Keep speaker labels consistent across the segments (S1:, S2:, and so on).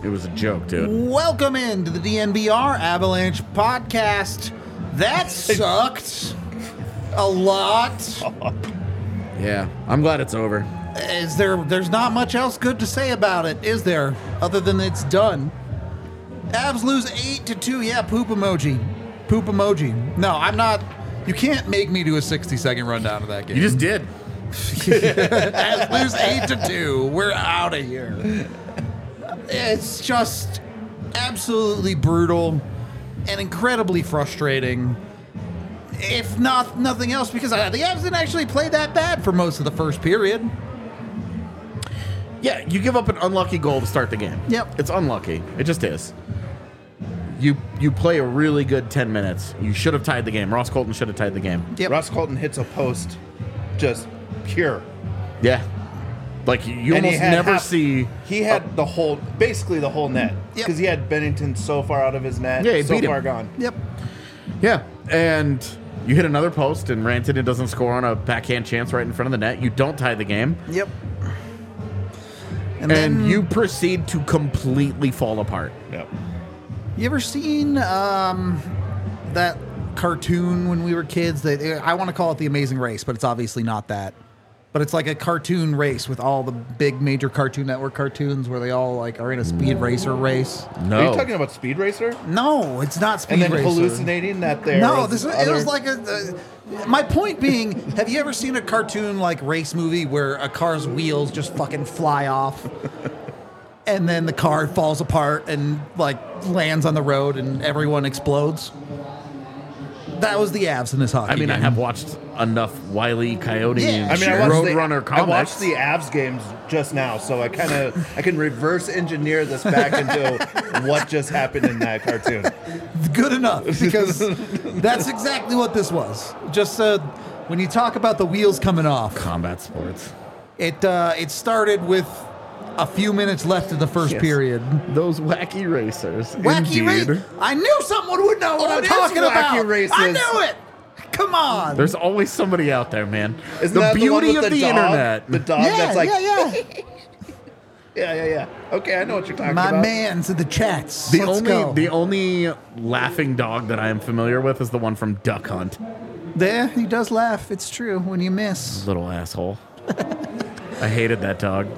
S1: It was a joke, dude.
S2: Welcome into the DNVR Avalanche podcast. That sucked a lot.
S1: Yeah, I'm glad it's over.
S2: There's not much else good to say about it, is there? Other than it's done. Avs lose 8-2. Yeah, poop emoji. Poop emoji. No, I'm not. You can't make me do a 60-second rundown of that game.
S1: You just did.
S2: Avs lose 8-2. We're out of here. It's just absolutely brutal and incredibly frustrating. If nothing else, because the Avs didn't actually play that bad for most of the first period.
S1: Yeah, you give up an unlucky goal to start the game.
S2: Yep.
S1: It's unlucky. It just is. You play a really good 10 minutes. You should have tied the game. Ross Colton should have tied the game.
S2: Yep.
S3: Ross Colton hits a post, just pure.
S1: Yeah. Like, you
S3: And
S1: almost never see...
S3: He had basically the whole net.
S2: Yep.
S3: Because he had Bennington so far out of his net,
S1: Yeah, he
S3: so
S1: beat him.
S3: far gone.
S2: Yep.
S1: Yeah, and you hit another post, and Rantanen doesn't score on a backhand chance right in front of the net. You don't tie the game.
S2: Yep.
S1: And
S2: then
S1: you proceed to completely fall apart.
S3: Yep.
S2: You ever seen that cartoon when we were kids? I want to call it The Amazing Race, but it's obviously not that. But it's like a cartoon race with all the big major Cartoon Network cartoons where they all like are in a speed racer race.
S1: No.
S3: Are you talking about Speed Racer?
S2: No, it's not Speed
S3: And then
S2: Racer.
S3: hallucinating that there
S2: No,
S3: was
S2: it was like my point being, have you ever seen a cartoon like race movie where a car's wheels just fucking fly off? And then the car falls apart and like lands on the road and everyone explodes? That was the Avs in this hockey
S1: I mean,
S2: game.
S1: I have watched enough Wile E. Coyote
S2: Yeah,
S3: I mean, I
S1: Roadrunner
S3: I watched
S1: comics.
S3: the Avs games just now, so I can reverse engineer this back into what just happened in that cartoon.
S2: Good enough, because that's exactly what this was. Just when you talk about the wheels coming off,
S1: Combat sports.
S2: it started with a few minutes left of the first
S1: Yes.
S2: period.
S1: Those wacky racers.
S2: Wacky
S1: Indeed.
S2: race. I knew someone would know what
S3: Oh,
S2: I'm
S3: it is
S2: talking
S3: wacky
S2: about.
S3: races.
S2: I knew it. Come on.
S1: There's always somebody out there, man.
S3: Isn't
S1: the
S3: that
S1: beauty
S3: the one with
S1: of the
S3: dog?
S1: internet.
S3: The dog
S2: yeah,
S3: that's like,
S2: yeah.
S3: yeah. Okay, I know what you're talking
S2: My
S3: about.
S2: man's in the chats.
S1: The
S2: Let's
S1: only
S2: go.
S1: the only laughing dog that I am familiar with is the one from Duck Hunt.
S2: There, he does laugh. It's true when you miss.
S1: Little asshole. I hated that dog.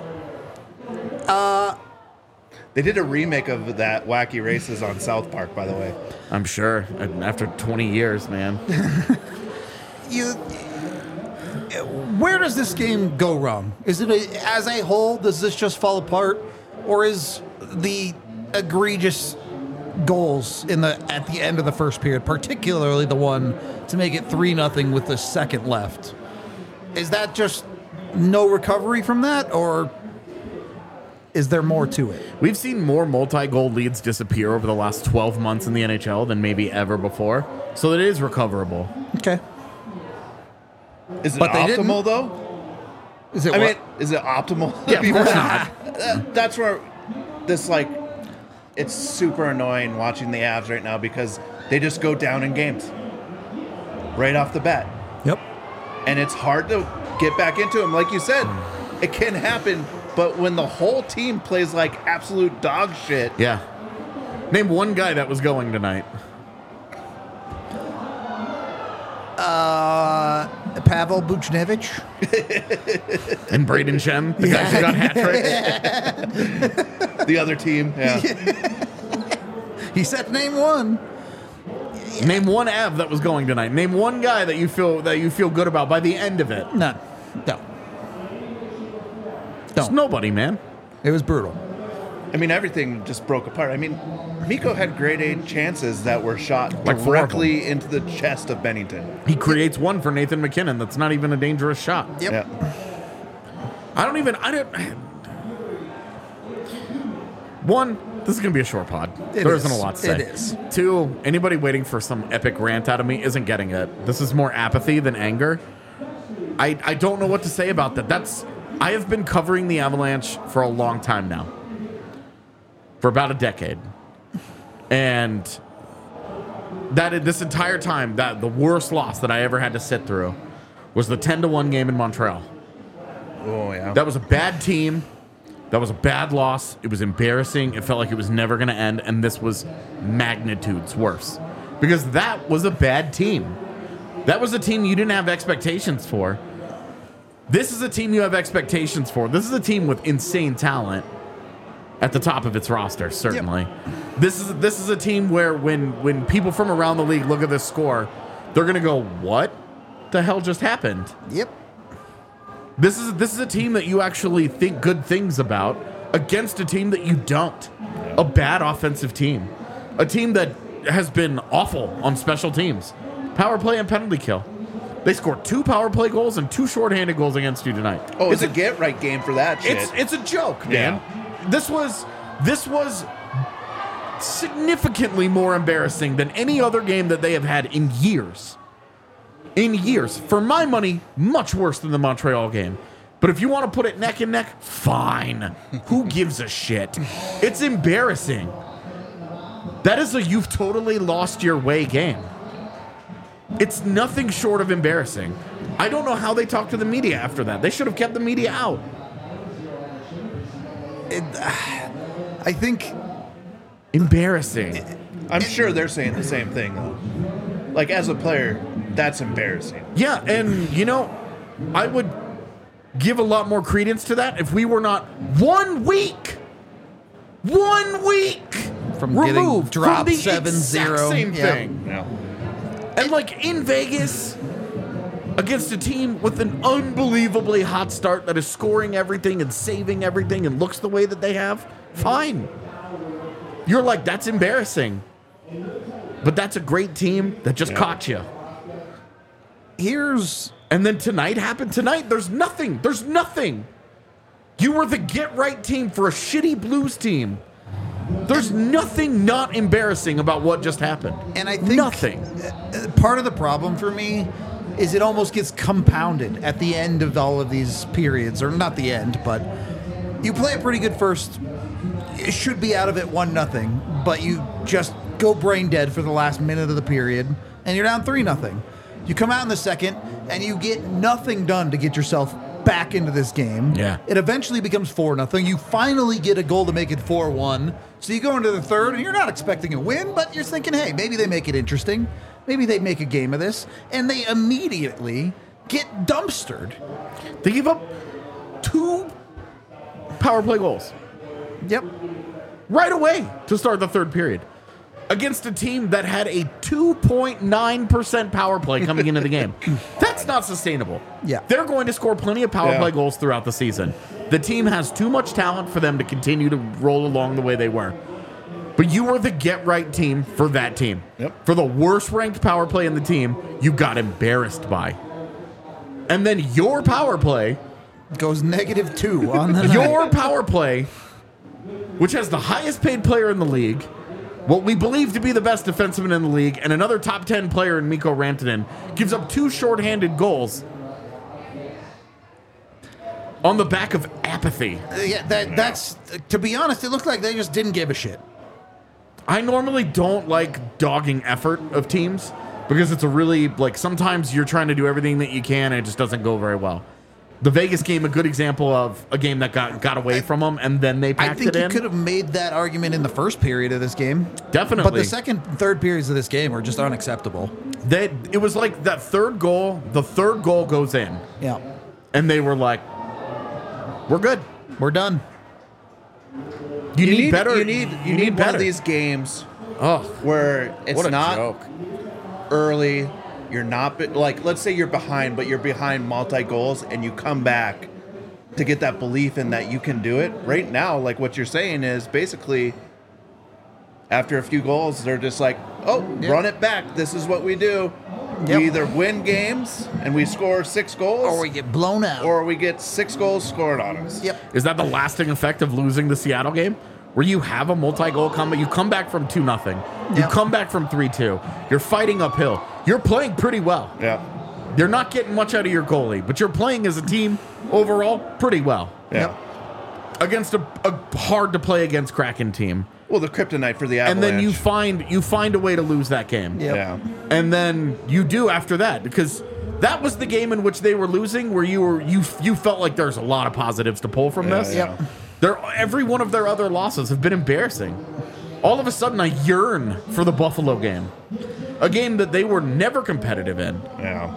S3: They did a remake of that Wacky Races on South Park, by the way.
S1: I'm sure. After 20 years, man.
S2: Where does this game go wrong? Is it as a whole? Does this just fall apart, or is the egregious goals at the end of the first period, particularly the one to make it 3-0 with the second left, is that just no recovery from that, or is there more to it?
S1: We've seen more multi-goal leads disappear over the last 12 months in the NHL than maybe ever before, so it is recoverable.
S2: Okay.
S3: Is it
S2: But they didn't.
S3: optimal, though?
S2: Is it?
S3: I
S2: what?
S3: mean, is it optimal?
S1: Yeah, of course not.
S3: That's where this, like, it's super annoying watching the Avs right now because they just go down in games right off the bat.
S2: Yep.
S3: And it's hard to get back into them. Like you said, it can happen, but when the whole team plays like absolute dog shit.
S1: Yeah. Name one guy that was going tonight.
S2: Pavel Buchnevich.
S1: And Braden Shen, the guy who got hat trick.
S3: The other team, yeah.
S2: He said, "Name one."
S1: Name one Av that was going tonight. Name one guy that you feel good about by the end of it.
S2: None. No.
S1: It's nobody, man.
S2: It was brutal.
S3: I mean, everything just broke apart. I mean, Mikko had grade A chances that were shot
S1: Like four of them.
S3: directly into the chest of Bennington.
S1: He creates one for Nathan McKinnon that's not even a dangerous shot.
S2: Yep.
S3: Yeah.
S1: One, this is going to be a short pod.
S2: It
S1: There
S2: is.
S1: isn't a lot to say.
S2: It is.
S1: Two, anybody waiting for some epic rant out of me isn't getting it. This is more apathy than anger. I don't know what to say about that. I have been covering the Avalanche for a long time now. For about a decade. And this entire time, that the worst loss that I ever had to sit through was the 10-1 game in Montreal.
S3: Oh, yeah.
S1: That was a bad team. That was a bad loss. It was embarrassing. It felt like it was never going to end. And this was magnitudes worse. Because that was a bad team. That was a team you didn't have expectations for. This is a team you have expectations for. This is a team with insane talent at the top of its roster, certainly. Yep. This is a team where when people from around the league look at this score, they're going to go, what the hell just happened?
S2: Yep.
S1: This is a team that you actually think good things about against a team that you don't. A bad offensive team. A team that has been awful on special teams. Power play and penalty kill. They scored 2 power play goals and 2 shorthanded goals against you tonight.
S3: Oh, it's a get-right game for that shit.
S1: It's a joke, man. Yeah. This was significantly more embarrassing than any other game that they have had in years. In years. For my money, much worse than the Montreal game. But if you want to put it neck and neck, fine. Who gives a shit? It's embarrassing. That is a you've totally lost your way game. It's nothing short of embarrassing. I don't know how they talked to the media after that. They should have kept the media out.
S2: I think...
S1: Embarrassing.
S3: I'm sure they're saying the same thing, though. Like, as a player, that's embarrassing.
S1: Yeah, and, you know, I would give a lot more credence to that if we were not 1 week
S2: from
S1: removed
S2: getting dropped
S1: from the
S2: 7-0.
S1: exact same thing.
S3: Yeah.
S1: And, like, in Vegas, against a team with an unbelievably hot start that is scoring everything and saving everything and looks the way that they have, fine. You're like, that's embarrassing. But that's a great team that just caught you. And then tonight happened. Tonight, there's nothing. There's nothing. You were the get-right team for a shitty Blues team. There's nothing not embarrassing about what just happened.
S2: And I think
S1: nothing.
S2: Part of the problem for me is it almost gets compounded at the end of all of these periods, or not the end, but you play a pretty good first. It should be out of it 1-0, but you just go brain dead for the last minute of the period, and you're down 3-0. You come out in the second, and you get nothing done to get yourself back into this game.
S1: Yeah.
S2: It eventually becomes 4-0. You finally get a goal to make it 4-1. So you go into the third, and you're not expecting a win, but you're thinking, hey, maybe they make it interesting. Maybe they make a game of this. And they immediately get dumpstered.
S1: They give up 2 power play goals.
S2: Yep.
S1: Right away to start the third period. Against a team that had a 2.9% power play coming into the game. That's not sustainable.
S2: Yeah.
S1: They're going to score plenty of power play goals throughout the season. The team has too much talent for them to continue to roll along the way they were. But you were the get-right team for that team.
S3: Yep.
S1: For the worst-ranked power play in the team, you got embarrassed by. And then your power play...
S2: goes -2 on the night.
S1: Your power play, which has the highest-paid player in the league... what we believe to be the best defenseman in the league, and another top 10 player in Mikko Rantanen, gives up 2 shorthanded goals on the back of apathy.
S2: That's, to be honest, it looked like they just didn't give a shit.
S1: I normally don't like dogging effort of teams, because it's a really, like, sometimes you're trying to do everything that you can, and it just doesn't go very well. The Vegas game, a good example of a game that got away from them, and then they packed it in.
S2: I think you could have made that argument in the first period of this game.
S1: Definitely.
S2: But the second and third periods of this game are just unacceptable.
S1: It was like that third goal, the third goal goes in.
S2: Yeah.
S1: And they were like, we're good.
S2: We're done.
S3: You need
S1: better.
S3: You need one of these games where it's
S1: what a
S3: not
S1: joke.
S3: early. You're not, like, let's say you're behind, but you're behind multi-goals, and you come back to get that belief in that you can do it. Right now, like what you're saying is basically after a few goals, they're just like, run it back. This is what we do.
S2: Yep.
S3: We either win games and we score 6 goals,
S2: Or we get blown out.
S3: or we get 6 goals scored on us.
S2: Yep.
S1: Is that the lasting effect of losing the Seattle game? Where you have a multi-goal comeback, you come back from 2-0, you
S2: Yep.
S1: come back from 3-2, you're fighting uphill, you're playing pretty well.
S3: Yeah.
S1: You're not getting much out of your goalie, but you're playing as a team overall pretty well.
S3: Yeah.
S1: Against a hard to play against Kraken team.
S3: Well, the kryptonite for the Avalanche.
S1: And then you find a way to lose that game.
S2: Yep.
S3: Yeah.
S1: And then you do after that, because that was the game in which they were losing, where you felt like there's a lot of positives to pull from this.
S3: Yeah.
S1: Every one of their other losses have been embarrassing. All of a sudden, I yearn for the Buffalo game. A game that they were never competitive in.
S3: Yeah.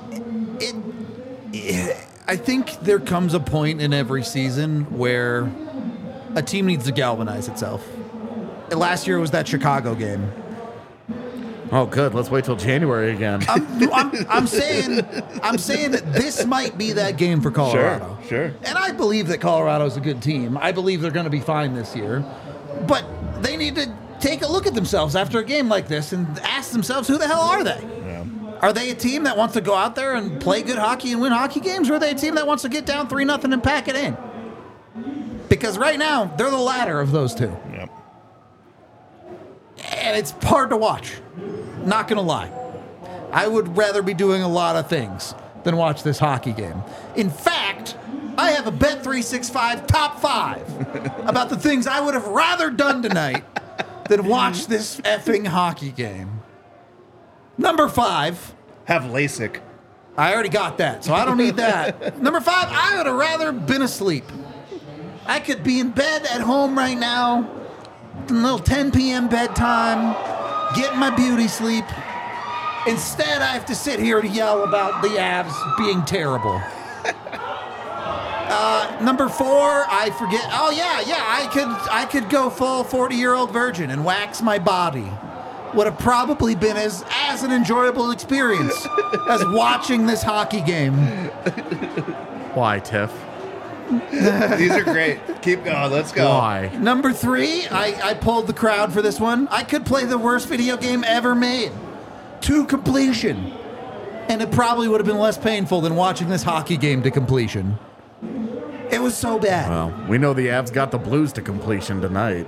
S2: I think there comes a point in every season where a team needs to galvanize itself. And last year was that Chicago game.
S1: Oh, good. Let's wait till January again.
S2: I'm saying that this might be that game for Colorado.
S3: Sure.
S2: And I believe that Colorado's a good team. I believe they're going to be fine this year. But they need to take a look at themselves after a game like this and ask themselves, who the hell are they?
S3: Yeah.
S2: Are they a team that wants to go out there and play good hockey and win hockey games, or are they a team that wants to get down 3-0 and pack it in? Because right now, they're the latter of those two.
S3: Yep.
S2: And it's hard to watch. Not going to lie. I would rather be doing a lot of things than watch this hockey game. In fact, I have a Bet365 top 5 about the things I would have rather done tonight than watch this effing hockey game. Number 5.
S3: Have LASIK.
S2: I already got that, so I don't need that. Number 5, I would have rather been asleep. I could be in bed at home right now, a little 10 p.m. bedtime, getting my beauty sleep. Instead, I have to sit here and yell about the Avs being terrible. Number 4, I forget. Oh yeah, I could go full 40-year-old virgin and wax my body. Would have probably been as an enjoyable experience as watching this hockey game.
S1: Why, Tiff?
S3: These are great. Keep going. Let's go.
S1: Why?
S2: Number 3, I pulled the crowd for this one. I could play the worst video game ever made to completion. And it probably would have been less painful than watching this hockey game to completion. It was so bad.
S1: Well, we know the Avs got the Blues to completion tonight.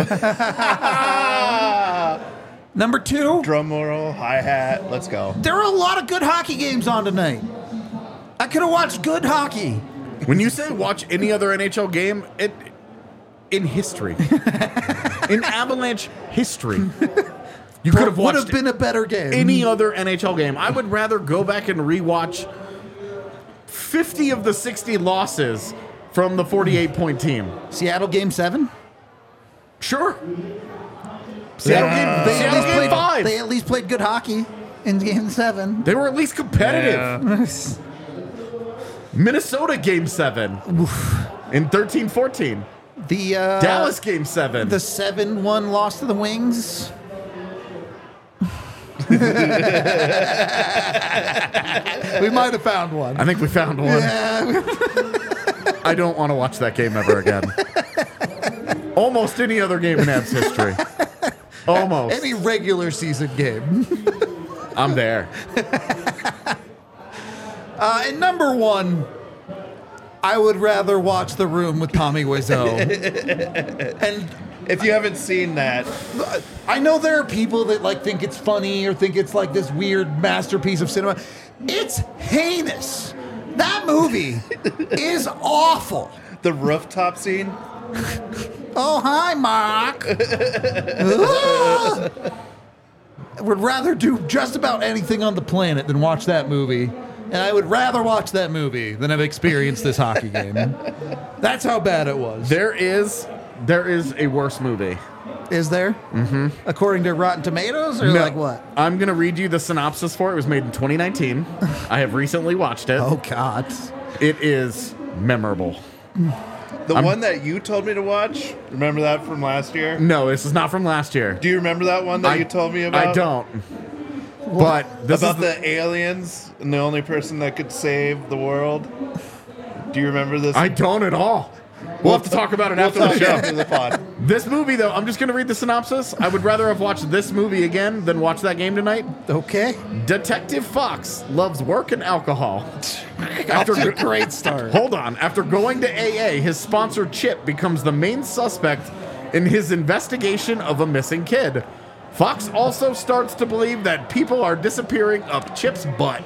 S2: Number 2,
S3: Drum roll, hi-hat. Let's go.
S2: there are a lot of good hockey games on tonight. I could have watched good hockey.
S1: When you say watch any other NHL game, in history, in Avalanche history, you could have
S2: Would
S1: watched
S2: have been a better game.
S1: any other NHL game. I would rather go back and rewatch 50 of the 60 losses from the 48-point team.
S2: Seattle Game 7?
S1: Sure. Seattle game 5.
S2: They at least played good hockey in Game 7.
S1: They were at least competitive.
S3: Yeah.
S1: Minnesota game 7 in 13-14.
S2: The
S1: Dallas game 7.
S2: the 7-1 loss to the Wings. We might have found one.
S1: I think we found one.
S2: Yeah.
S1: I don't want to watch that game ever again. Almost any other game in Avs history. Almost.
S2: Any regular season game.
S1: I'm there.
S2: And number 1, I would rather watch The Room with Tommy Wiseau. And
S3: If you haven't seen that,
S2: I know there are people that like think it's funny or think it's like this weird masterpiece of cinema. It's heinous. That movie is awful.
S3: the rooftop scene.
S2: Oh, hi, Mark. Would rather do just about anything on the planet than watch that movie. And I would rather watch that movie than have experienced this hockey game. That's how bad it was.
S1: There is a worse movie.
S2: Is there? Mm-hmm. According to Rotten Tomatoes, or
S1: No,
S2: like what?
S1: I'm going to read you the synopsis for it. It was made in 2019. I have recently watched it.
S2: Oh, God.
S1: It is memorable.
S3: The one that you told me to watch. Remember that from last year?
S1: No, this is not from last year.
S3: Do you remember that one that you told me about?
S1: I don't. But this
S3: About
S1: is
S3: the aliens and the only person that could save the world. Do you remember this?
S1: I don't at all. We'll have to talk about it after the show.
S3: After the pod.
S1: This movie, though, I'm just going to read the synopsis. I would rather have watched this movie again than watch that game tonight.
S2: Okay.
S1: Detective Fox loves work and alcohol.
S2: That's a great start.
S1: Hold on. After going to AA, his sponsor Chip becomes the main suspect in his investigation of a missing kid. Fox also starts to believe that people are disappearing up Chip's butt.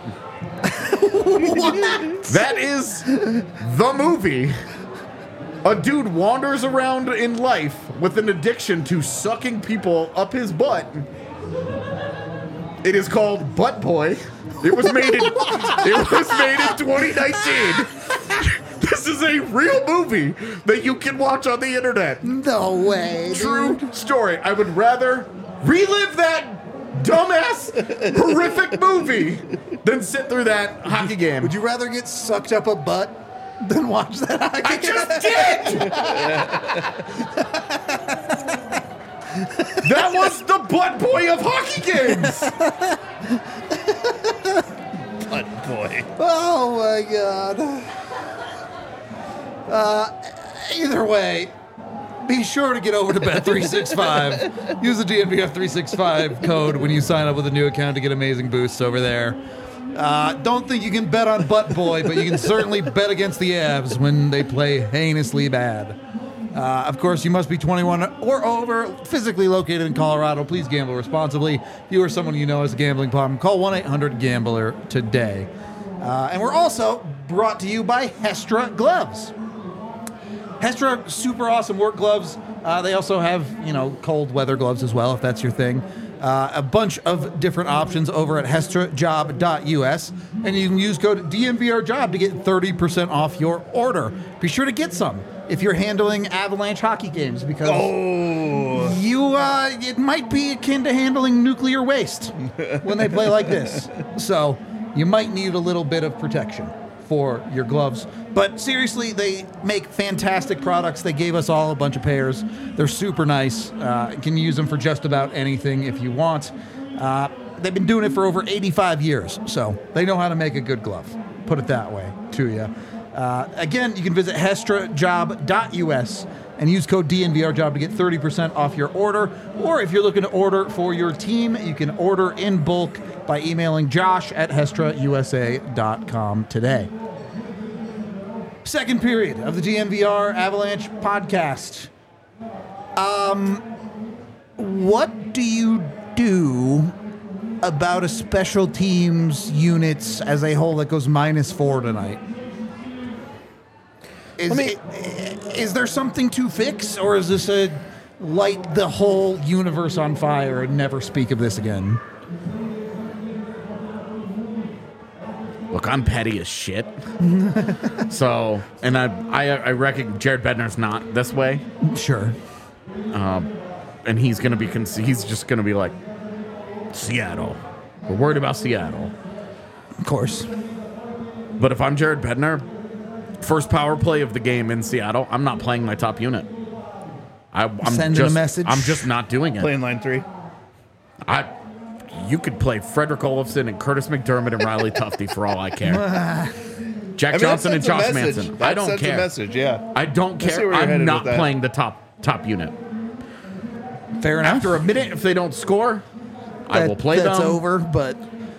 S2: What?
S1: That is the movie. A dude wanders around in life with an addiction to sucking people up his butt. It is called Butt Boy. It was made in 2019. This This is a real movie that you can watch on the internet.
S2: No way.
S1: True story. I would rather relive that dumbass, horrific movie than sit through that hockey game.
S2: Would you rather get sucked up a butt than watch that hockey
S1: I
S2: game?
S1: just did! That was the butt boy of hockey games.
S3: Butt boy.
S2: Oh my god. Either way, be sure to get over to Bet365. Use the DNVF365 code when you sign up with a new account to get amazing boosts over there. Don't think you can bet on Butt Boy, but you can certainly bet against the Avs when they play heinously bad. Of course, you must be 21 or over, physically located in Colorado. Please gamble responsibly. If you or someone you know has a gambling problem, call 1-800-GAMBLER today. And we're also brought to you by Hestra Gloves. Hestra, super awesome work gloves. They also have, cold weather gloves as well, if that's your thing. A bunch of different options over at hestrajob.us. And you can use code DNVRJOB to get 30% off your order. Be sure to get some if you're handling Avalanche hockey games, because it might be akin to handling nuclear waste when they play like this. So you might need a little bit of protection for your gloves. But seriously, they make fantastic products. They gave us all a bunch of pairs. They're super nice. You can use them for just about anything if you want. They've been doing it for over 85 years, so they know how to make a good glove. Put it that way to you. Again, you can visit hestrajob.us and use code DNVRJOB to get 30% off your order. Or if you're looking to order for your team, you can order in bulk by emailing josh@hestrausa.com today. Second period of the DNVR Avalanche podcast. What do you do about a special teams units as a whole that goes -4 tonight? Is there something to fix, or is this a light the whole universe on fire and never speak of this again?
S1: Look, I'm petty as shit. So, and I reckon Jared Bednar's not this way.
S2: Sure.
S1: And he's going to be, he's just going to be like, Seattle. We're worried about Seattle.
S2: Of course.
S1: But if I'm Jared Bednar, first power play of the game in Seattle, I'm not playing my top unit. I'm
S2: Sending a message.
S1: I'm just not doing it.
S3: Playing line 3.
S1: You could play Frederick Olofsson and Curtis McDermott and Riley Tufte for all I care. Jack Johnson and Josh Manson. I don't care.
S3: A message, yeah.
S1: I don't care. I'm not playing the top unit.
S2: Fair enough.
S1: After a minute, if they don't score, I will play them.
S2: That's over, but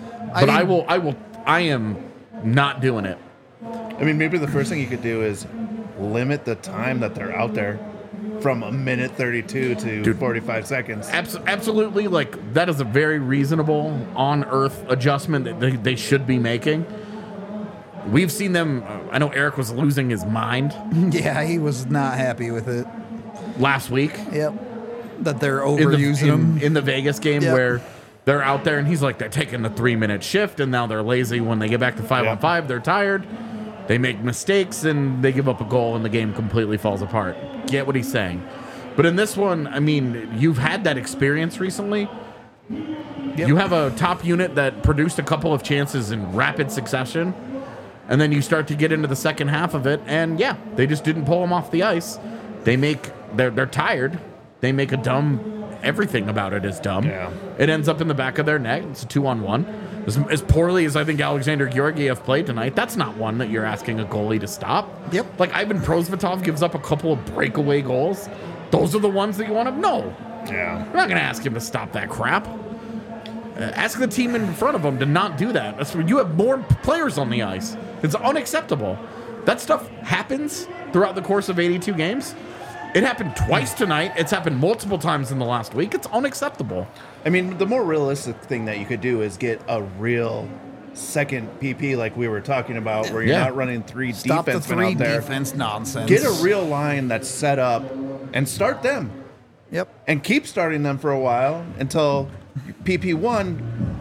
S1: I am not doing it.
S3: I mean, maybe the first thing you could do is limit the time that they're out there from a minute 32 to 45 seconds.
S1: Absolutely. Like, that is a very reasonable on-earth adjustment that they should be making. We've seen them. I know Eric was losing his mind.
S2: Yeah, he was not happy with it.
S1: Last week.
S2: Yep. That they're overusing them.
S1: In the Vegas game where they're out there and he's like, they're taking the 3-minute shift and now they're lazy. When they get back to 5-on-5, they're tired. They make mistakes and they give up a goal and the game completely falls apart. Get what he's saying. But in this one, I mean, you've had that experience recently. Yep. You have a top unit that produced a couple of chances in rapid succession. And then you start to get into the second half of it. And yeah, they just didn't pull them off the ice. They're tired. They make a dumb, everything about it is dumb.
S3: Yeah.
S1: It ends up in the back of their net. It's a 2-on-1. As poorly as I think Alexander Georgiev played tonight, that's not one that you're asking a goalie to stop.
S2: Yep.
S1: Like Ivan Prosvetov gives up a couple of breakaway goals. Those are the ones that you want to know.
S3: Yeah.
S1: We're not going to ask him to stop that crap. Ask the team in front of him to not do that. That's when you have more players on the ice. It's unacceptable. That stuff happens throughout the course of 82 games. It happened twice tonight. It's happened multiple times in the last week. It's unacceptable.
S3: I mean, the more realistic thing that you could do is get a real second PP like we were talking about, where you're not running 3
S2: Stop
S3: defensemen
S2: the 3
S3: out there.
S2: defense nonsense.
S3: Get a real line that's set up and start them.
S2: Yep.
S3: And keep starting them for a while until PP1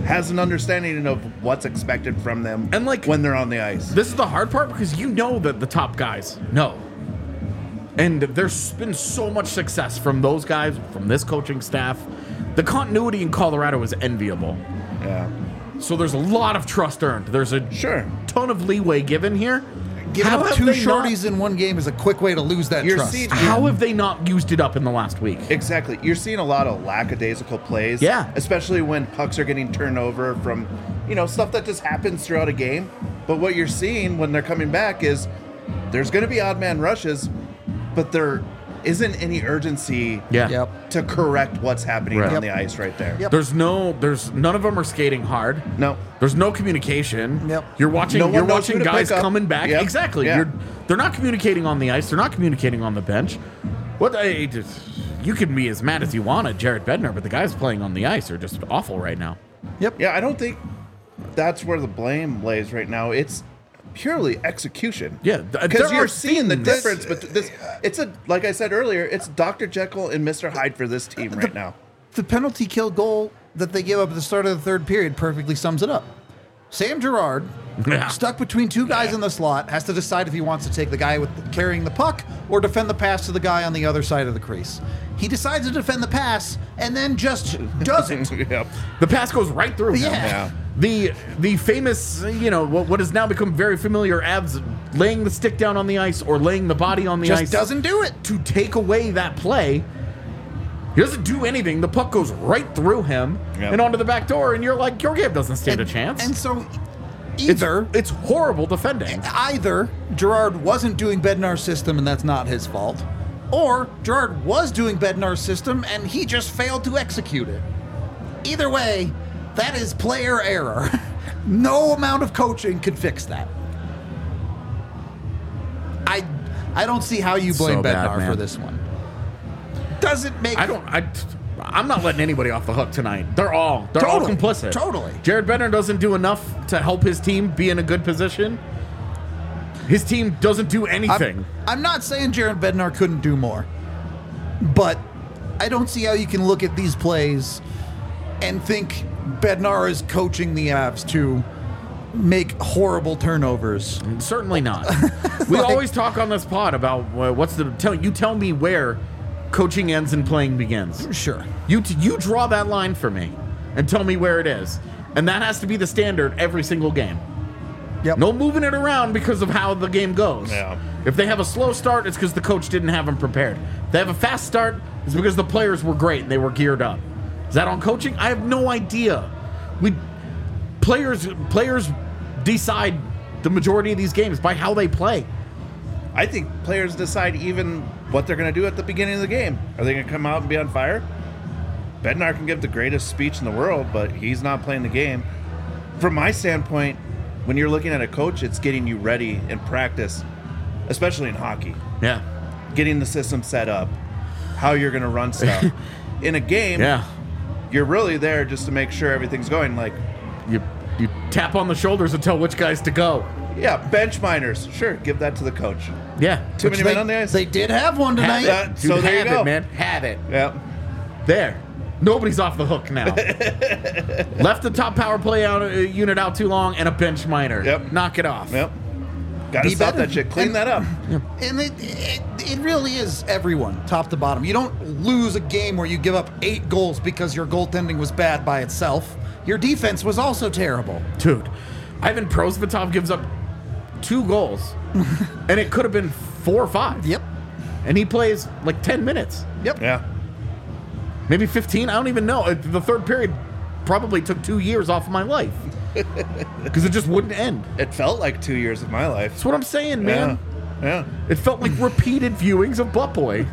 S3: has an understanding of what's expected from them
S1: And, like,
S3: when they're on the ice.
S1: This is the hard part because you know that the top guys know. And there's been so much success from those guys, from this coaching staff. The continuity in Colorado is enviable.
S3: Yeah.
S1: So there's a lot of trust earned. There's a
S3: Sure.
S1: ton of leeway given here.
S2: Giving
S1: How
S2: up
S1: have
S2: 2
S1: they
S2: shorties in one game is a quick way to lose that
S3: You're
S2: trust.
S3: seeing-
S1: How have they not used it up in the last week?
S3: Exactly. You're seeing a lot of lackadaisical plays.
S1: Yeah.
S3: Especially when pucks are getting turned over from, stuff that just happens throughout a game. But what you're seeing when they're coming back is there's going to be odd man rushes, but there isn't any urgency
S1: Yeah.
S2: Yep.
S3: to correct what's happening
S1: Right.
S3: on
S2: Yep.
S3: the ice right there.
S2: Yep.
S1: There's none of them are skating hard.
S3: No.
S1: There's no communication.
S2: Yep.
S1: You're watching
S3: No one
S1: you're
S3: knows
S1: watching
S3: who to
S1: guys
S3: pick up.
S1: coming back.
S3: Yep.
S1: Exactly.
S3: Yeah.
S1: They're not communicating on the ice. They're not communicating on the bench. You can be as mad as you want at Jared Bednar, but the guys playing on the ice are just awful right now.
S2: Yep.
S3: Yeah, I don't think that's where the blame lays right now. It's purely execution.
S1: Yeah,
S3: Because
S1: there
S3: you're
S1: are
S3: seeing the
S1: things-
S3: difference, but like I said earlier, it's Dr. Jekyll and Mr. Hyde for this team right now.
S2: The penalty kill goal that they gave up at the start of the third period perfectly sums it up. Sam Girard,
S1: Yeah.
S2: stuck between 2 guys in the slot, has to decide if he wants to take the guy carrying the puck or defend the pass to the guy on the other side of the crease. He decides to defend the pass and then just doesn't.
S3: Yep.
S1: The pass goes right through him.
S2: Yeah.
S1: The famous, what has now become very familiar, Avs laying the stick down on the ice or laying the body on the
S2: Just
S1: ice.
S2: doesn't do it.
S1: To take away that play. He doesn't do anything. The puck goes right through him
S3: Yep.
S1: and onto the back door, and you're like, Georgiev doesn't stand a chance.
S2: And so
S1: it's,
S2: either
S1: it's horrible defending.
S2: Gerard wasn't doing Bednar's system and that's not his fault, or Gerard was doing Bednar's system and he just failed to execute it. Either way, that is player error. No amount of coaching could fix that. I don't see how you blame
S1: So bad,
S2: Bednar
S1: man.
S2: for this one. Doesn't make
S1: I'm not letting anybody off the hook tonight. They're all
S2: Totally.
S1: complicit.
S2: Totally.
S1: Jared Bednar doesn't do enough to help his team be in a good position. His team doesn't do anything.
S2: I'm not saying Jared Bednar couldn't do more, but I don't see how you can look at these plays and think Bednar is coaching the Avs to make horrible turnovers.
S1: Certainly not. We always talk on this pod about you tell me where coaching ends and playing begins.
S2: Sure.
S1: You draw that line for me and tell me where it is. And that has to be the standard every single game.
S2: Yep.
S1: No moving it around because of how the game goes.
S3: Yeah.
S1: If they have a slow start, it's because the coach didn't have them prepared. If they have a fast start, it's because the players were great and they were geared up. Is that on coaching? I have no idea. Players decide the majority of these games by how they play.
S3: I think players decide even what they're going to do at the beginning of the game. Are they going to come out and be on fire? Bednar can give the greatest speech in the world, but he's not playing the game. From my standpoint, when you're looking at a coach, it's getting you ready in practice, especially in hockey.
S1: Yeah.
S3: Getting the system set up, how you're going to run stuff. In a game,
S1: Yeah.
S3: you're really there just to make sure everything's going. Like,
S1: You tap on the shoulders and tell which guys to go.
S3: yeah, bench minors. Sure, give that to the coach.
S1: Yeah.
S3: Too many men on the ice.
S2: They did have one
S1: Have
S2: tonight.
S1: it.
S3: So
S1: Dude,
S3: there you
S1: have
S3: go.
S1: it, man. Have it.
S3: Yeah.
S1: There. Nobody's off the hook now. Left the top power play unit out too long and a bench minor.
S3: Yep.
S1: Knock it off.
S3: Yep. Got to
S2: Be
S3: stop
S2: better.
S3: that shit. Clean
S2: And-
S3: that up.
S2: And it really is everyone, top to bottom. You don't lose a game where you give up 8 goals because your goaltending was bad by itself. Your defense was also terrible.
S1: Dude, Ivan Prosvetov gives up 2 goals, and it could have been 4 or 5.
S2: Yep.
S1: And he plays like 10 minutes.
S2: Yep.
S3: Yeah.
S1: Maybe 15. I don't even know. The third period probably took 2 years off of my life because it just wouldn't end.
S3: It felt like 2 years of my life.
S1: That's what I'm saying, man.
S3: Yeah.
S1: It felt like repeated viewings of Butt Boy.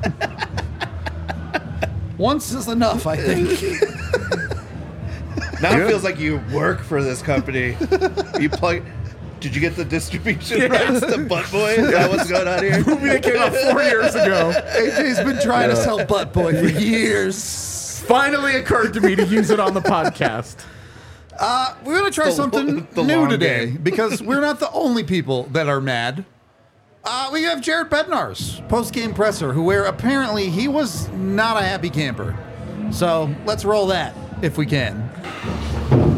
S2: Once is enough, I think.
S3: Now it feels like you work for this company. You plug. Did you get the distribution rights to Butt Boy? Is that what's going on here?
S1: Movie that came out 4 years ago.
S2: AJ's been trying to sell Butt Boy for years.
S1: Finally occurred to me to use it on the podcast.
S2: We're going to try something
S3: the
S2: new
S3: long
S2: today
S3: game.
S2: because we're not the only people that are mad. We have Jared Bednar's post-game presser, where apparently he was not a happy camper. So let's roll that if we can.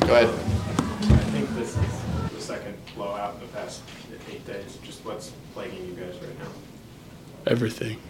S4: Go ahead.
S5: I think this is the second blowout in the past 8 days. Just what's plaguing you guys right now?
S6: Everything.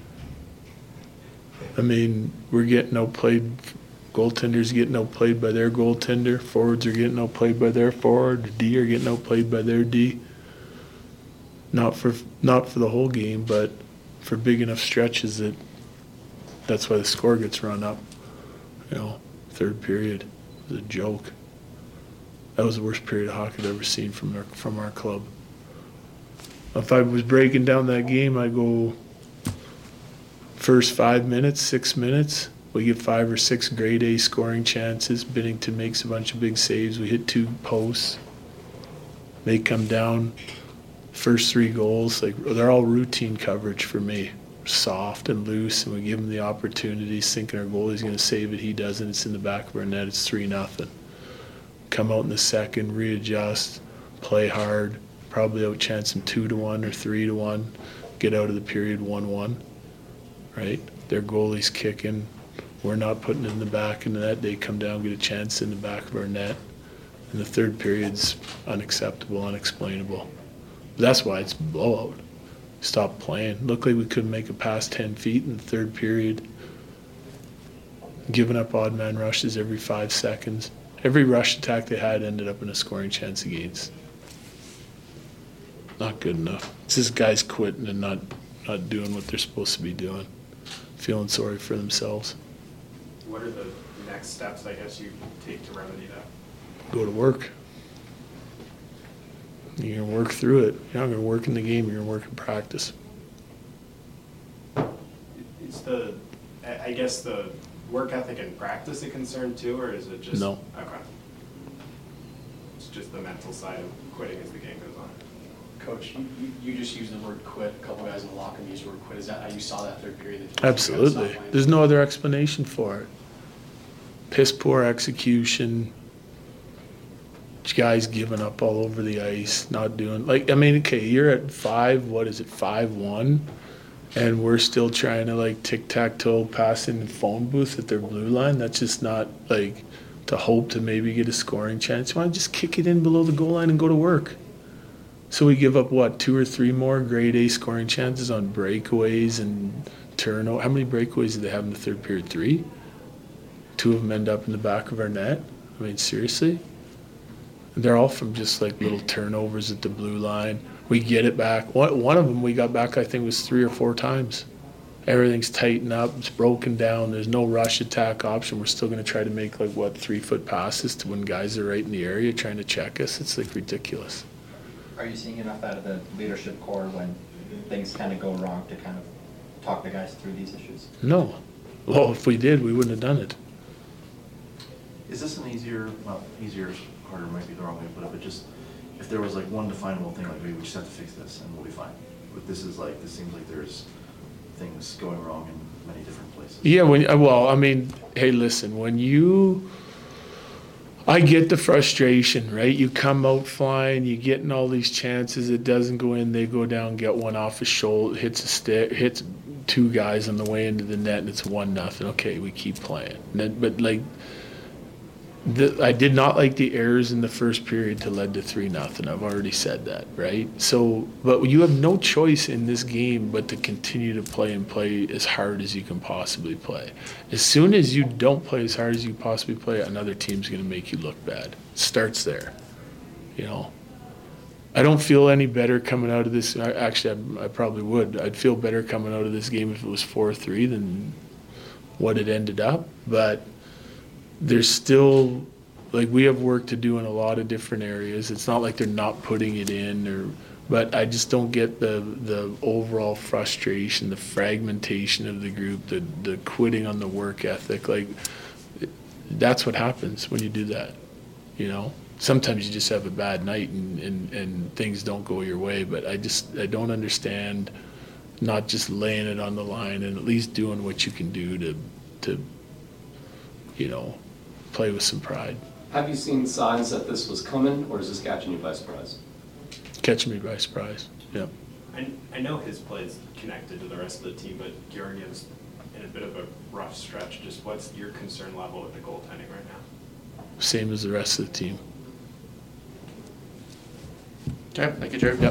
S6: I mean, we're getting outplayed. Goaltenders getting outplayed by their goaltender. Forwards are getting outplayed by their forward. The D are getting outplayed by their D. Not for the whole game, but for big enough stretches that's why the score gets run up. You know, third period was a joke. That was the worst period of hockey I've ever seen from our club. If I was breaking down that game, I go first 5 minutes, 6 minutes, we get 5 or 6 grade A scoring chances. Binnington makes a bunch of big saves. We hit 2 posts. They come down. First 3 goals, like they're all routine coverage for me. Soft and loose, and we give him the opportunities, thinking our goalie's going to save it. He doesn't. It's in the back of our net. It's 3-0. Come out in the second, readjust, play hard, probably outchance them 2-1 or 3-1. Get out of the period 1-1. Right? Their goalie's kicking. We're not putting it in the back of the net. They come down, get a chance in the back of our net. And the third period's unacceptable, unexplainable. That's why it's a blowout. Stop playing. Looked like we couldn't make it past 10 feet in the third period. Giving up odd man rushes every 5 seconds. Every rush attack they had ended up in a scoring chance against. Not good enough. It's just guys quitting and not doing what they're supposed to be doing. Feeling sorry for themselves.
S5: What are the next steps, I guess, you take to remedy that?
S6: Go to work. You're going to work through it. You're not going to work in the game. You're going to work in practice.
S5: Is I guess the work ethic and practice a concern too, or is it just?
S6: No.
S5: Okay. It's just the mental side of quitting as the game goes on.
S4: Coach, you just used the word quit. A couple guys in the locker room used the word quit. Is that how you saw that third period?
S6: Absolutely. There's no other explanation for it. Piss poor execution. Guys giving up all over the ice, not doing okay, you're at 5-1, and we're still trying to tic-tac-toe pass in the phone booth at their blue line. That's just not to hope to maybe get a scoring chance. You want to just kick it in below the goal line and go to work. So we give up 2 or 3 more grade A scoring chances on breakaways and turnover. How many breakaways did they have in the third period? 3? 2 of them end up in the back of our net. I mean, seriously? They're all from just little turnovers at the blue line. We get it back. One of them we got back, I think, was 3 or 4 times. Everything's tightened up. It's broken down. There's no rush attack option. We're still going to try to make 3-foot passes to when guys are right in the area trying to check us. It's ridiculous.
S7: Are you seeing enough out of the leadership core when things kind of go wrong to kind of talk the guys through these issues?
S6: No. Well, if we did, we wouldn't have done it.
S8: Is this an easier, harder might be the wrong way to put it, but just if there was one definable thing, we just have to fix this and we'll be fine. But this is this seems like there's things going wrong in many different places.
S6: Yeah, hey, listen, I get the frustration, right? You come out flying, you getting all these chances, it doesn't go in, they go down, get one off his shoulder, hits a stick, hits 2 guys on the way into the net, and it's 1-0. Okay, we keep playing. But I did not like the errors in the first period to lead to 3-0. I've already said that, right? So, but you have no choice in this game but to continue to play as hard as you can possibly play. As soon as you don't play as hard as you possibly play, another team's going to make you look bad. It starts there, I don't feel any better coming out of this. Actually, I probably would. I'd feel better coming out of this game if it was 4-3 than what it ended up, but there's still we have work to do in a lot of different areas. It's not like they're not putting it in, but I just don't get the overall frustration, the fragmentation of the group, the quitting on the work ethic. That's what happens when you do that. Sometimes you just have a bad night and things don't go your way. But I don't understand not just laying it on the line and at least doing what you can do to play with some pride.
S9: Have you seen signs that this was coming, or is this catching you by surprise?
S6: Catching me by surprise, yeah.
S5: I know his play is connected to the rest of the team, but Georgiev's in a bit of a rough stretch. Just what's your concern level with the goaltending right now?
S6: same as the rest of the team.
S9: Okay, thank you, Jared.
S6: Yep.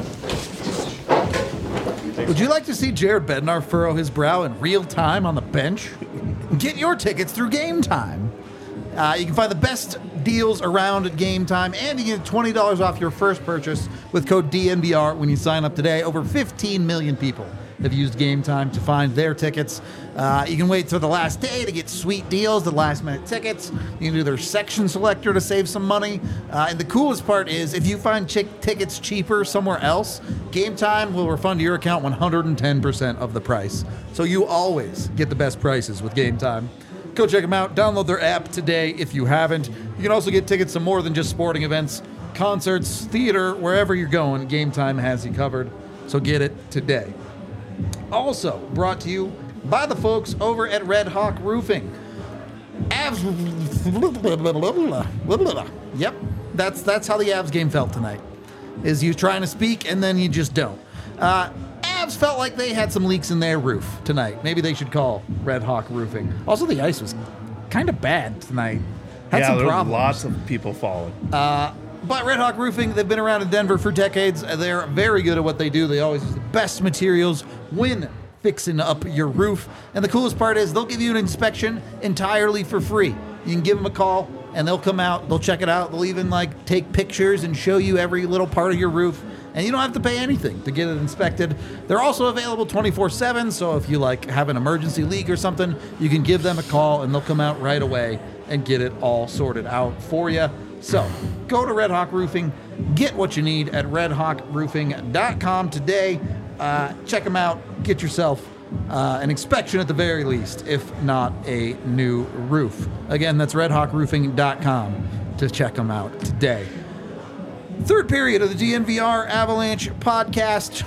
S2: Would you like to see Jared Bednar furrow his brow in real time on the bench? Get your tickets through Game Time. You can find the best deals around at Game Time, and you get $20 off your first purchase with code DNVR when you sign up today. Over 15 million people have used Game Time to find their tickets. You can wait till the last day to get sweet deals, the last minute tickets. You can do their section selector to save some money. And the coolest part is if you find tickets cheaper somewhere else, Game Time will refund your account 110% of the price. So you always get the best prices with Game Time. Go check them out. Download their app today if you haven't. You can also get tickets to more than just sporting events, concerts, theater, wherever you're going. Game Time has you covered. So get it today. Also brought to you by the folks over at Red Hawk Roofing. Avs. Yep, that's how the Avs game felt tonight. Is you trying to speak and then you just don't. Avs felt like they had some leaks in their roof tonight. Maybe they should call Red Hawk Roofing. Also, the ice was kind of bad tonight. Had some
S3: there were
S2: problems.
S3: lots of people falling.
S2: But Red Hawk Roofing, they've been around in Denver for decades. They're very good at what they do. They always use the best materials when fixing up your roof. And the coolest part is they'll give you an inspection entirely for free. You can give them a call and they'll come out, they'll check it out. They'll even take pictures and show you every little part of your roof. And you don't have to pay anything to get it inspected. They're also available 24/7, so if you have an emergency leak or something, you can give them a call and they'll come out right away and get it all sorted out for you. So go to Red Hawk Roofing, get what you need at redhawkroofing.com today. Check them out, get yourself an inspection at the very least, if not a new roof. Again, that's redhawkroofing.com to check them out today. Third period of the DNVR Avalanche podcast.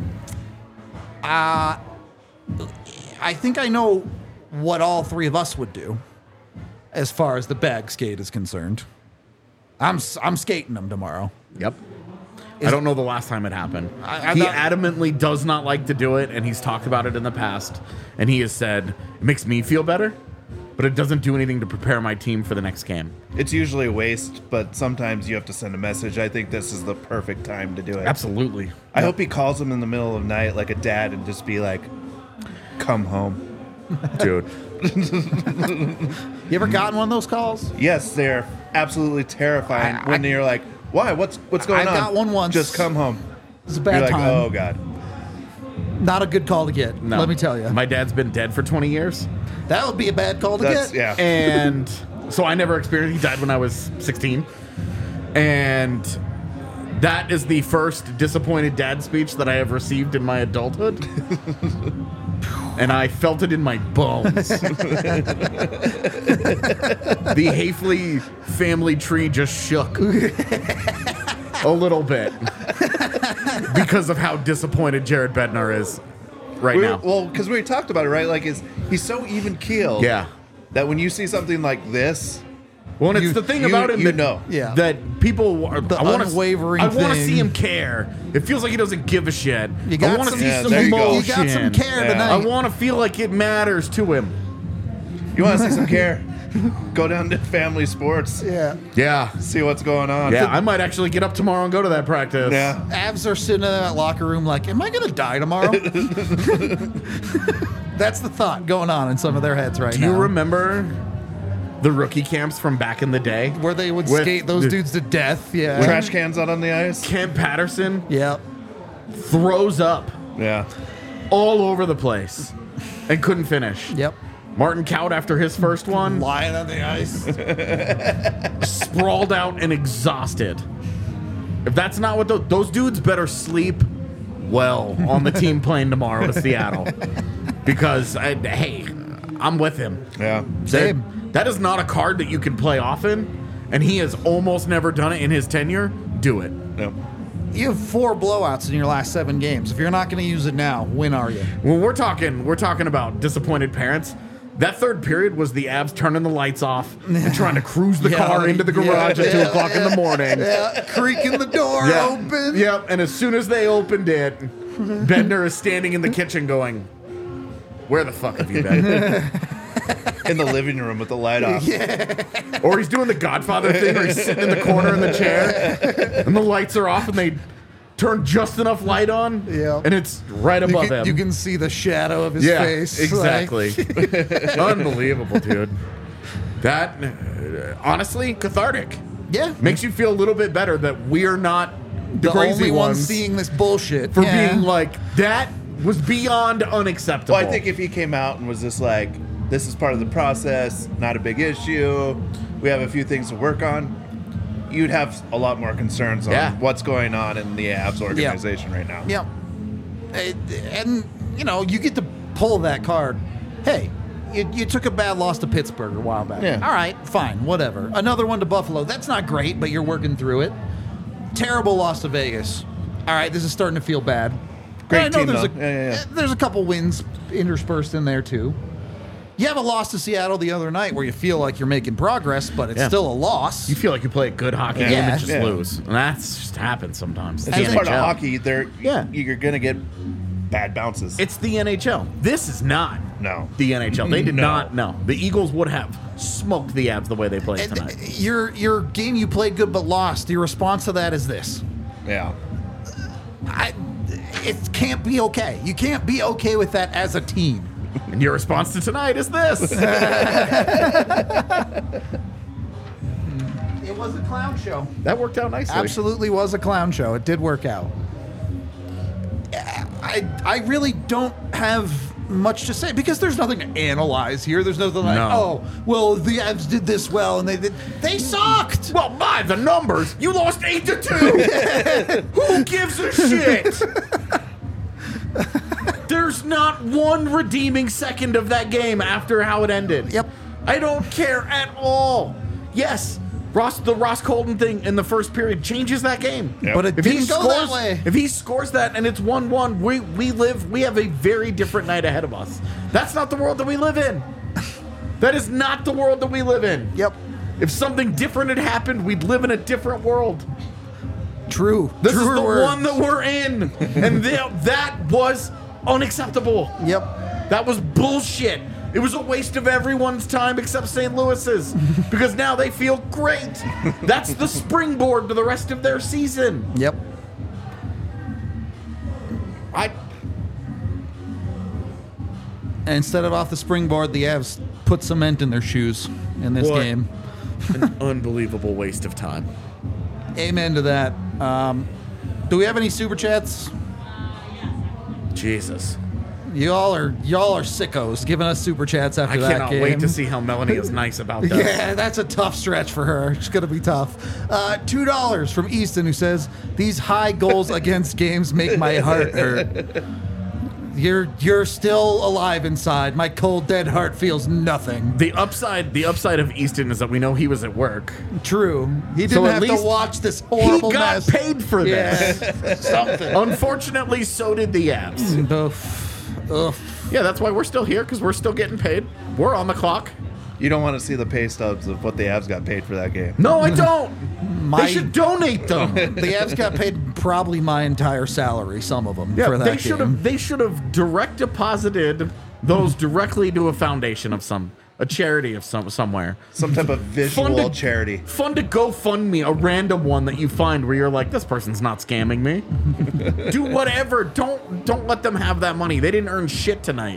S2: I think I know what all three of us would do as far as the bag skate is concerned. I'm skating them tomorrow.
S1: Yep. I don't know the last time it happened. He adamantly does not like to do it, and he's talked about it in the past. And he has said, it makes me feel better, but it doesn't do anything to prepare my team for the next game.
S3: It's usually a waste, but sometimes you have to send a message. I think this is the perfect time to do it.
S1: Absolutely.
S3: I hope he calls him in the middle of the night like a dad and just be like, come home.
S1: Dude.
S2: You ever gotten one of those calls?
S3: Yes, they're absolutely terrifying when you're like, why? What's going on?
S2: I got one once.
S3: Just come home.
S2: It's a bad
S3: You're like,
S2: time.
S3: oh, God.
S2: Not a good call to get,
S1: No.
S2: let me tell you.
S1: My dad's been dead for 20 years.
S2: That would be a bad call to get.
S3: Yeah.
S1: And so I never experienced. He died when I was 16. And that is the first disappointed dad speech that I have received in my adulthood. And I felt it in my bones. The Hafley family tree just shook a little bit because of how disappointed Jared Bednar is right now.
S3: Well, because we talked about it, right? Like, he's so even keeled.
S1: Yeah.
S3: That when you see something like this,
S1: Well, and it's the thing about him that,
S2: Yeah.
S1: that people are,
S2: The
S1: I wanna,
S2: unwavering
S1: I want to
S2: thing.
S1: see him care. It feels like he doesn't give a shit.
S2: You got
S1: I want to
S2: some-
S1: see
S3: Yeah,
S1: some
S3: there you go.
S1: emotion.
S2: You got some care
S3: Yeah.
S2: tonight.
S1: I want to feel like it matters to him.
S3: you want to see some care, go down to Family Sports,
S2: Yeah.
S1: Yeah.
S3: see what's going on.
S1: Yeah, I might actually get up tomorrow and go to that practice.
S3: Yeah.
S2: Avs are sitting in that locker room like, am I going to die tomorrow? That's the thought going on in some of their heads right
S1: Do
S2: now.
S1: you remember the rookie camps from back in the day?
S2: Where they would
S1: With
S2: skate those
S1: the-
S2: dudes to death. Yeah.
S3: Trash cans out on the ice.
S1: Cam Patterson
S2: Yep.
S1: throws up
S3: Yeah.
S1: all over the place and couldn't finish.
S2: Yep.
S1: Martin Kaut, after his first one,
S2: Lying on the ice.
S1: sprawled out and exhausted. If that's not what those dudes better sleep well on the team plane tomorrow to Seattle, because hey, I'm with him.
S3: Yeah.
S2: Same.
S1: That is not a card that you can play often, and he has almost never done it in his tenure. Do it.
S3: Yep.
S2: You have 4 blowouts in your last 7 games. If you're not going to use it now, when are you?
S1: When we're talking about disappointed parents. That third period was the Avs turning the lights off and trying to cruise the
S2: Yeah,
S1: car into the garage at 2 o'clock in the morning.
S2: Yeah, creaking the door open.
S1: Yep, and as soon as they opened it, Bednar is standing in the kitchen going, "Where the fuck have you been?"
S3: in the living room with the light off.
S1: Or he's doing the Godfather thing where he's sitting in the corner in the chair and the lights are off and they turn just enough light on and it's right above him.
S2: You can see the shadow of his face.
S1: Exactly. Unbelievable, dude. That, honestly, cathartic.
S2: Yeah.
S1: Makes you feel a little bit better that we're not the crazy
S2: only ones
S1: ones
S2: seeing this bullshit.
S1: for being like, that was beyond unacceptable.
S3: Well, I think if he came out and was just like, this is part of the process, not a big issue, we have a few things to work on, you'd have a lot more concerns on what's going on in the Avs organization right now.
S2: Yeah. And, you know, you get to pull that card. Hey, you took a bad loss to Pittsburgh a while back.
S3: Yeah.
S2: All right, fine, whatever. Another one to Buffalo. That's not great, but you're working through it. Terrible loss to Vegas. All right, this is starting to feel bad.
S3: Great
S2: And I know
S3: team, though.
S2: there's a couple wins interspersed in there, too. You have a loss to Seattle the other night where you feel like you're making progress, but it's still a loss.
S1: you feel like you play a good hockey game
S2: Yeah.
S1: and just
S3: Yeah.
S1: lose. And that's just happens sometimes.
S3: It's
S1: The
S3: just part of
S1: NHL.
S3: hockey.
S1: Yeah.
S3: You're going to get bad bounces.
S1: It's the NHL. This is not
S3: No.
S1: the NHL. They did
S3: No.
S1: not. No, the Eagles would have smoked the Avs the way they played
S2: And
S1: tonight.
S2: your game you played good but lost. Your response to that is this.
S3: Yeah.
S2: It can't be okay. You can't be okay with that as a team.
S1: And your response to tonight is this.
S2: It was a clown show.
S1: That worked out nicely.
S2: Absolutely was a clown show. It did work out. I really don't have much to say because there's nothing to analyze here. There's nothing like,
S1: No.
S2: oh, well, the Avs did this well and they sucked.
S1: Well, by the numbers, you lost 8-2. Who gives a shit? There's not one redeeming second of that game after how it ended.
S2: Yep.
S1: I don't care at all. Yes, the Ross Colton thing in the first period changes that game.
S3: Yep.
S2: But it didn't go that way.
S1: If he scores that and it's 1-1, we have a very different night ahead of us. That's not the world that we live in. That is not the world that we live in.
S2: Yep.
S1: If something different had happened, we'd live in a different world.
S2: True.
S1: This
S2: Truer
S1: is the
S2: words.
S1: one that we're in. And that was unacceptable.
S2: Yep.
S1: That was bullshit. It was a waste of everyone's time except St. Louis's because now they feel great. That's the springboard to the rest of their season.
S2: Yep. And instead of off the springboard, the Avs put cement in their shoes in this
S1: What?
S2: game.
S1: An unbelievable waste of time.
S2: Amen to that. Do we have any super chats?
S1: Jesus.
S2: Y'all are sickos giving us super chats after
S1: I
S2: that
S1: cannot
S2: game.
S1: wait to see how Melanie is nice about that.
S2: Yeah, that's a tough stretch for her. It's going to be tough. $2 from Easton, who says, these high goals against games make my heart hurt. You're still alive inside. My cold, dead heart feels nothing.
S1: The upside of Easton is that we know he was at work.
S2: True. He didn't
S1: So at
S2: have to
S1: least
S2: watch this horrible
S1: He got
S2: mess.
S1: paid for this.
S2: Yeah. Something.
S1: Unfortunately, so did the Avs.
S2: Ugh.
S1: Yeah, that's why we're still here, because we're still getting paid. We're on the clock.
S3: You don't want to see the pay stubs of what the Avs got paid for that game.
S1: No, I don't. They should donate them.
S2: The Avs got paid probably my entire salary, some of them,
S1: Yeah,
S2: for that
S1: they should
S2: game.
S1: have. They should have direct deposited those directly to a foundation of a charity of somewhere.
S3: Some type of visual charity.
S1: Fund to GoFundMe, a random one that you find where you're like, this person's not scamming me. Do whatever. Don't let them have that money. They didn't earn shit tonight.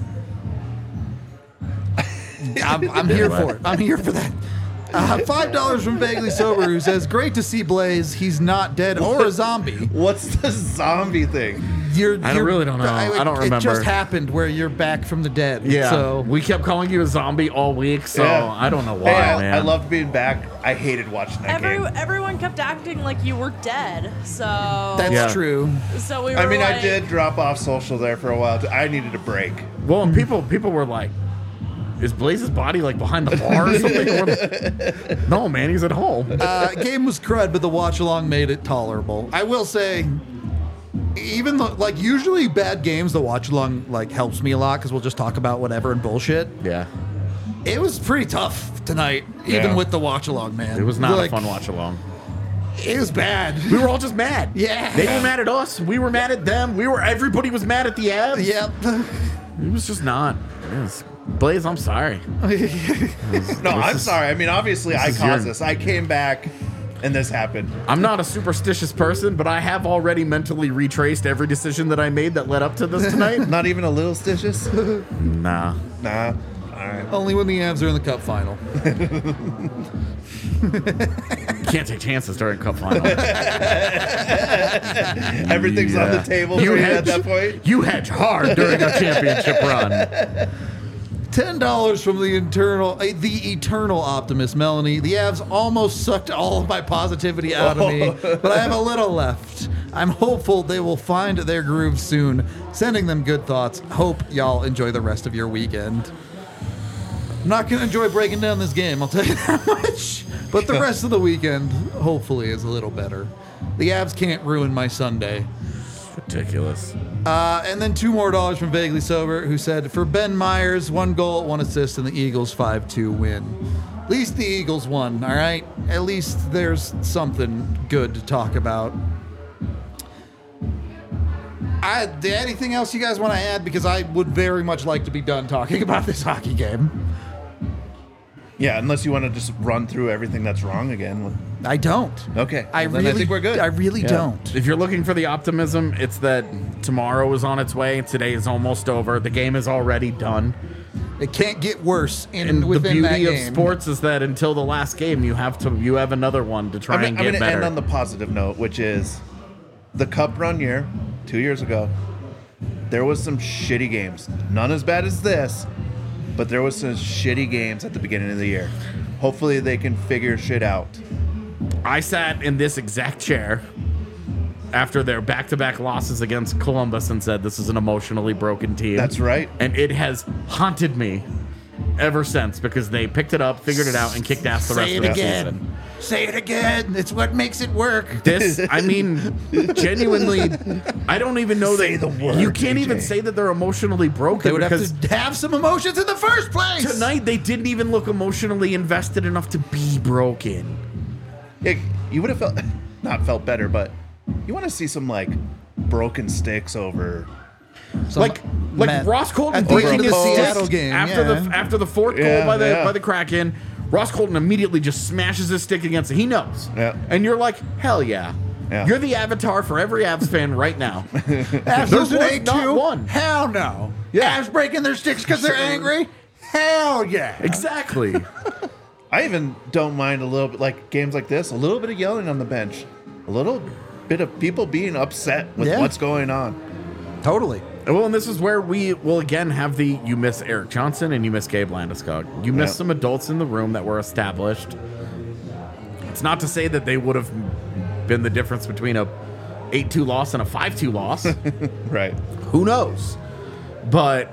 S2: I'm here for it. I'm here for that. $5 from Vaguely Sober, who says, great to see Blaze. He's not dead or a zombie.
S3: What's the zombie thing?
S1: I really don't know. I don't remember.
S2: It just happened where you're back from the dead.
S1: Yeah.
S2: So
S1: We kept calling you a zombie all week, so
S3: Yeah.
S1: I don't know why,
S3: Hey,
S1: man.
S3: I loved being back. I hated watching that game.
S10: Everyone kept acting like you were dead, so
S2: that's true.
S10: So we were.
S3: I mean, I
S10: like-
S3: did drop off social there for a while. I needed a break.
S1: Well, and people were like, is Blaze's body like behind the bar or something? No, man, he's at home.
S2: Game was crud, but the watch along made it tolerable. I will say, even though, like, usually bad games, the watch along like helps me a lot because we'll just talk about whatever and bullshit.
S1: Yeah.
S2: It was pretty tough tonight, even
S1: Yeah.
S2: with the watch along, man.
S1: It was not
S2: Like,
S1: a fun watch along.
S2: It was bad.
S1: We were all just mad.
S2: Yeah.
S1: They were mad at us. We were mad at them. Everybody was mad at the Avs.
S2: Yep.
S1: It was just not. Blaze, I'm sorry.
S3: No, I'm sorry. I mean, obviously, I
S1: is
S3: caused
S1: your-
S3: this. I came back, and this happened.
S1: I'm not a superstitious person, but I have already mentally retraced every decision that I made that led up to this tonight.
S3: Not even a little stitious?
S1: Nah.
S3: Nah. All right.
S2: Only when the Avs are in the Cup final.
S1: Can't take chances during cup final.
S3: Everything's on the table for you at that point.
S1: You hedge hard during a championship run.
S2: $10 from the eternal optimist, Melanie. The Avs almost sucked all of my positivity out of me, but I have a little left. I'm hopeful they will find their groove soon. Sending them good thoughts. Hope y'all enjoy the rest of your weekend. I'm not going to enjoy breaking down this game, I'll tell you that much. But the rest of the weekend, hopefully, is a little better. The Avs can't ruin my Sunday.
S1: Ridiculous.
S2: And then $2 more from Vaguely Sober, who said, for Ben Myers, 1 goal, 1 assist, and the Eagles 5-2 win. At least the Eagles won, all right? At least there's something good to talk about. Anything else you guys want to add? Because I would very much like to be done talking about this hockey game.
S3: Yeah, unless you want to just run through everything that's wrong again.
S2: I don't.
S3: Okay.
S2: I
S3: Then I think we're good.
S2: I really don't.
S1: If you're looking for the optimism, it's that tomorrow is on its way. Today is almost over. The game is already done.
S2: It can't get worse
S1: And the
S2: within that
S1: beauty of
S2: game.
S1: sports is that until the last game, you have another one to try
S3: I'm
S1: and
S3: going
S1: get
S3: to end
S1: better.
S3: on the positive note, which is the Cup run year, 2 years ago. There was some shitty games. None as bad as this, but there was some shitty games at the beginning of the year. Hopefully they can figure shit out.
S1: I sat in this exact chair after their back-to-back losses against Columbus and said, this is an emotionally broken team.
S3: That's right.
S1: And it has haunted me ever since because they picked it up, figured it out, and kicked ass the rest of the season.
S2: Say it again. It's what makes it work.
S1: This, I mean, genuinely, I don't even know
S3: Say
S1: that
S3: the word,
S1: you can't
S3: AJ.
S1: even say that they're emotionally broken
S2: They would
S1: because
S2: have to have some emotions in the first place.
S1: tonight they didn't even look emotionally invested enough to be broken.
S3: You would have not felt better, but you want to see some like broken sticks over.
S1: Like Ross Colton
S2: at the
S1: breaking
S2: end of
S1: his
S2: the
S1: stick
S2: Seattle game
S1: after the fourth goal
S3: Yeah,
S1: by the
S3: yeah.
S1: by the Kraken. Ross Colton immediately just smashes his stick against it. He knows.
S3: Yeah.
S1: And you're like, hell yeah.
S3: Yeah.
S1: You're the avatar for every Avs fan right now.
S2: Avs
S1: There's
S2: losing
S1: one, not
S2: 8-2?
S1: one.
S2: Hell no.
S1: Yeah.
S2: Avs breaking their sticks because they're angry? Hell yeah.
S1: Exactly.
S3: I even don't mind a little bit, like games like this, a little bit of yelling on the bench, a little bit of people being upset with
S2: Yeah.
S3: what's going on.
S2: Totally.
S1: Well, and this is where we will again have you miss Eric Johnson and you miss Gabe Landeskog. You miss
S3: Yeah.
S1: some adults in the room that were established. It's not to say that they would have been the difference between a 8-2 loss and a 5-2 loss.
S3: Right.
S1: Who knows? But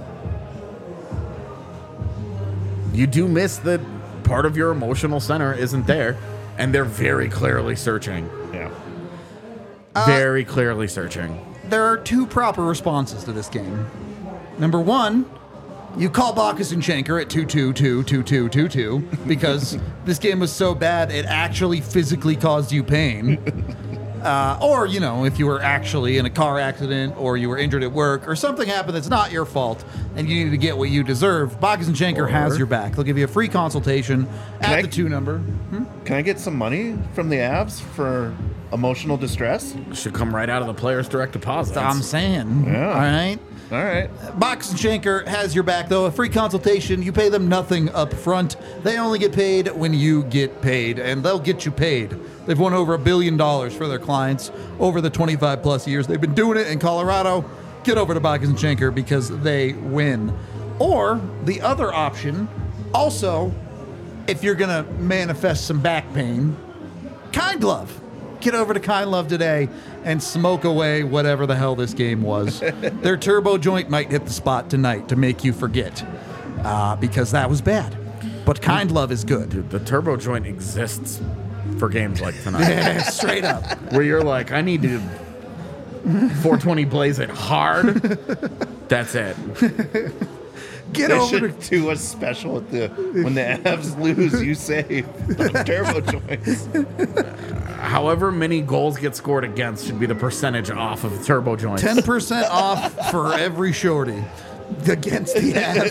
S1: you do miss that part of your emotional center isn't there, and they're very clearly searching.
S3: Yeah.
S1: Very clearly searching.
S2: There are 2 proper responses to this game. Number 1, you call Bacchus and Schenker at 2-2-2-2-2-2-2 because this game was so bad it actually physically caused you pain. Or, you know, if you were actually in a car accident or you were injured at work or something happened that's not your fault and you need to get what you deserve, Bacchus and Schenker has your back. They'll give you a free consultation at the 2 number.
S3: Can I get some money from the Avs for emotional distress?
S1: Should come right out of the player's direct deposit.
S2: I'm saying.
S3: Yeah.
S2: All right.
S3: All right.
S2: Bacchus and Schenker has your back, though. A free consultation. You pay them nothing up front. They only get paid when you get paid, and they'll get you paid. They've won over $1 billion for their clients over the 25-plus years they've been doing it in Colorado. Get over to Bacchus and Schenker because they win. Or the other option, also, if you're going to manifest some back pain, Kind Love. Get over to Kind Love today and smoke away whatever the hell this game was. Their turbo joint might hit the spot tonight to make you forget because that was bad. But Kind Love is good.
S1: Dude, the turbo joint exists for games like tonight.
S2: Yeah, straight up.
S1: Where you're like, I need to 420 blaze it hard. That's it.
S2: Get
S3: They
S2: over to
S3: should do a special with when the Avs lose, you save the turbo joints.
S1: However many goals get scored against should be the percentage off of the turbo joints.
S2: 10% off for every shorty. against the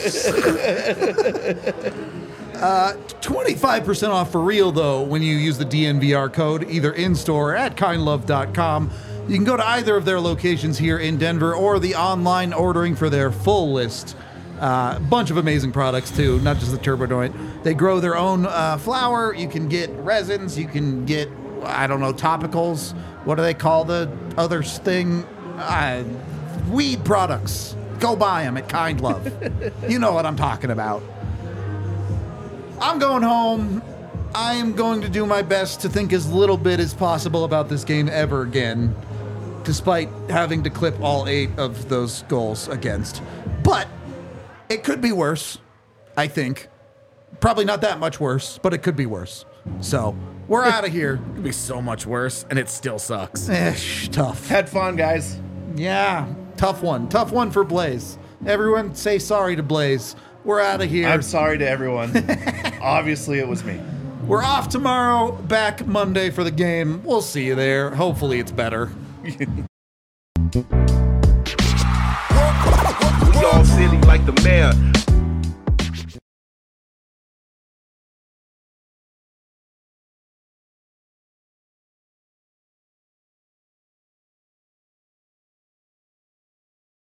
S2: Avs. 25% off for real, though, when you use the DNVR code, either in-store or at kindlove.com. You can go to either of their locations here in Denver or the online ordering for their full list. Bunch of amazing products, too, not just the Turbodoint. They grow their own flour. You can get resins. You can get, I don't know, topicals. What do they call the other thing? Weed products. Go buy them at Kind Love. You know what I'm talking about. I'm going home. I am going to do my best to think as little bit as possible about this game ever again, despite having to clip all 8 of those goals against. But it could be worse, I think. Probably not that much worse, but it could be worse. So, we're out of here.
S1: It could be so much worse, and it still sucks.
S2: Tough.
S3: Had fun, guys.
S2: Yeah, tough one. Tough one for Blaze. Everyone say sorry to Blaze. We're out of here.
S3: I'm sorry to everyone. Obviously, it was me.
S2: We're off tomorrow, back Monday for the game. We'll see you there. Hopefully it's better.
S11: We all silly like the mayor.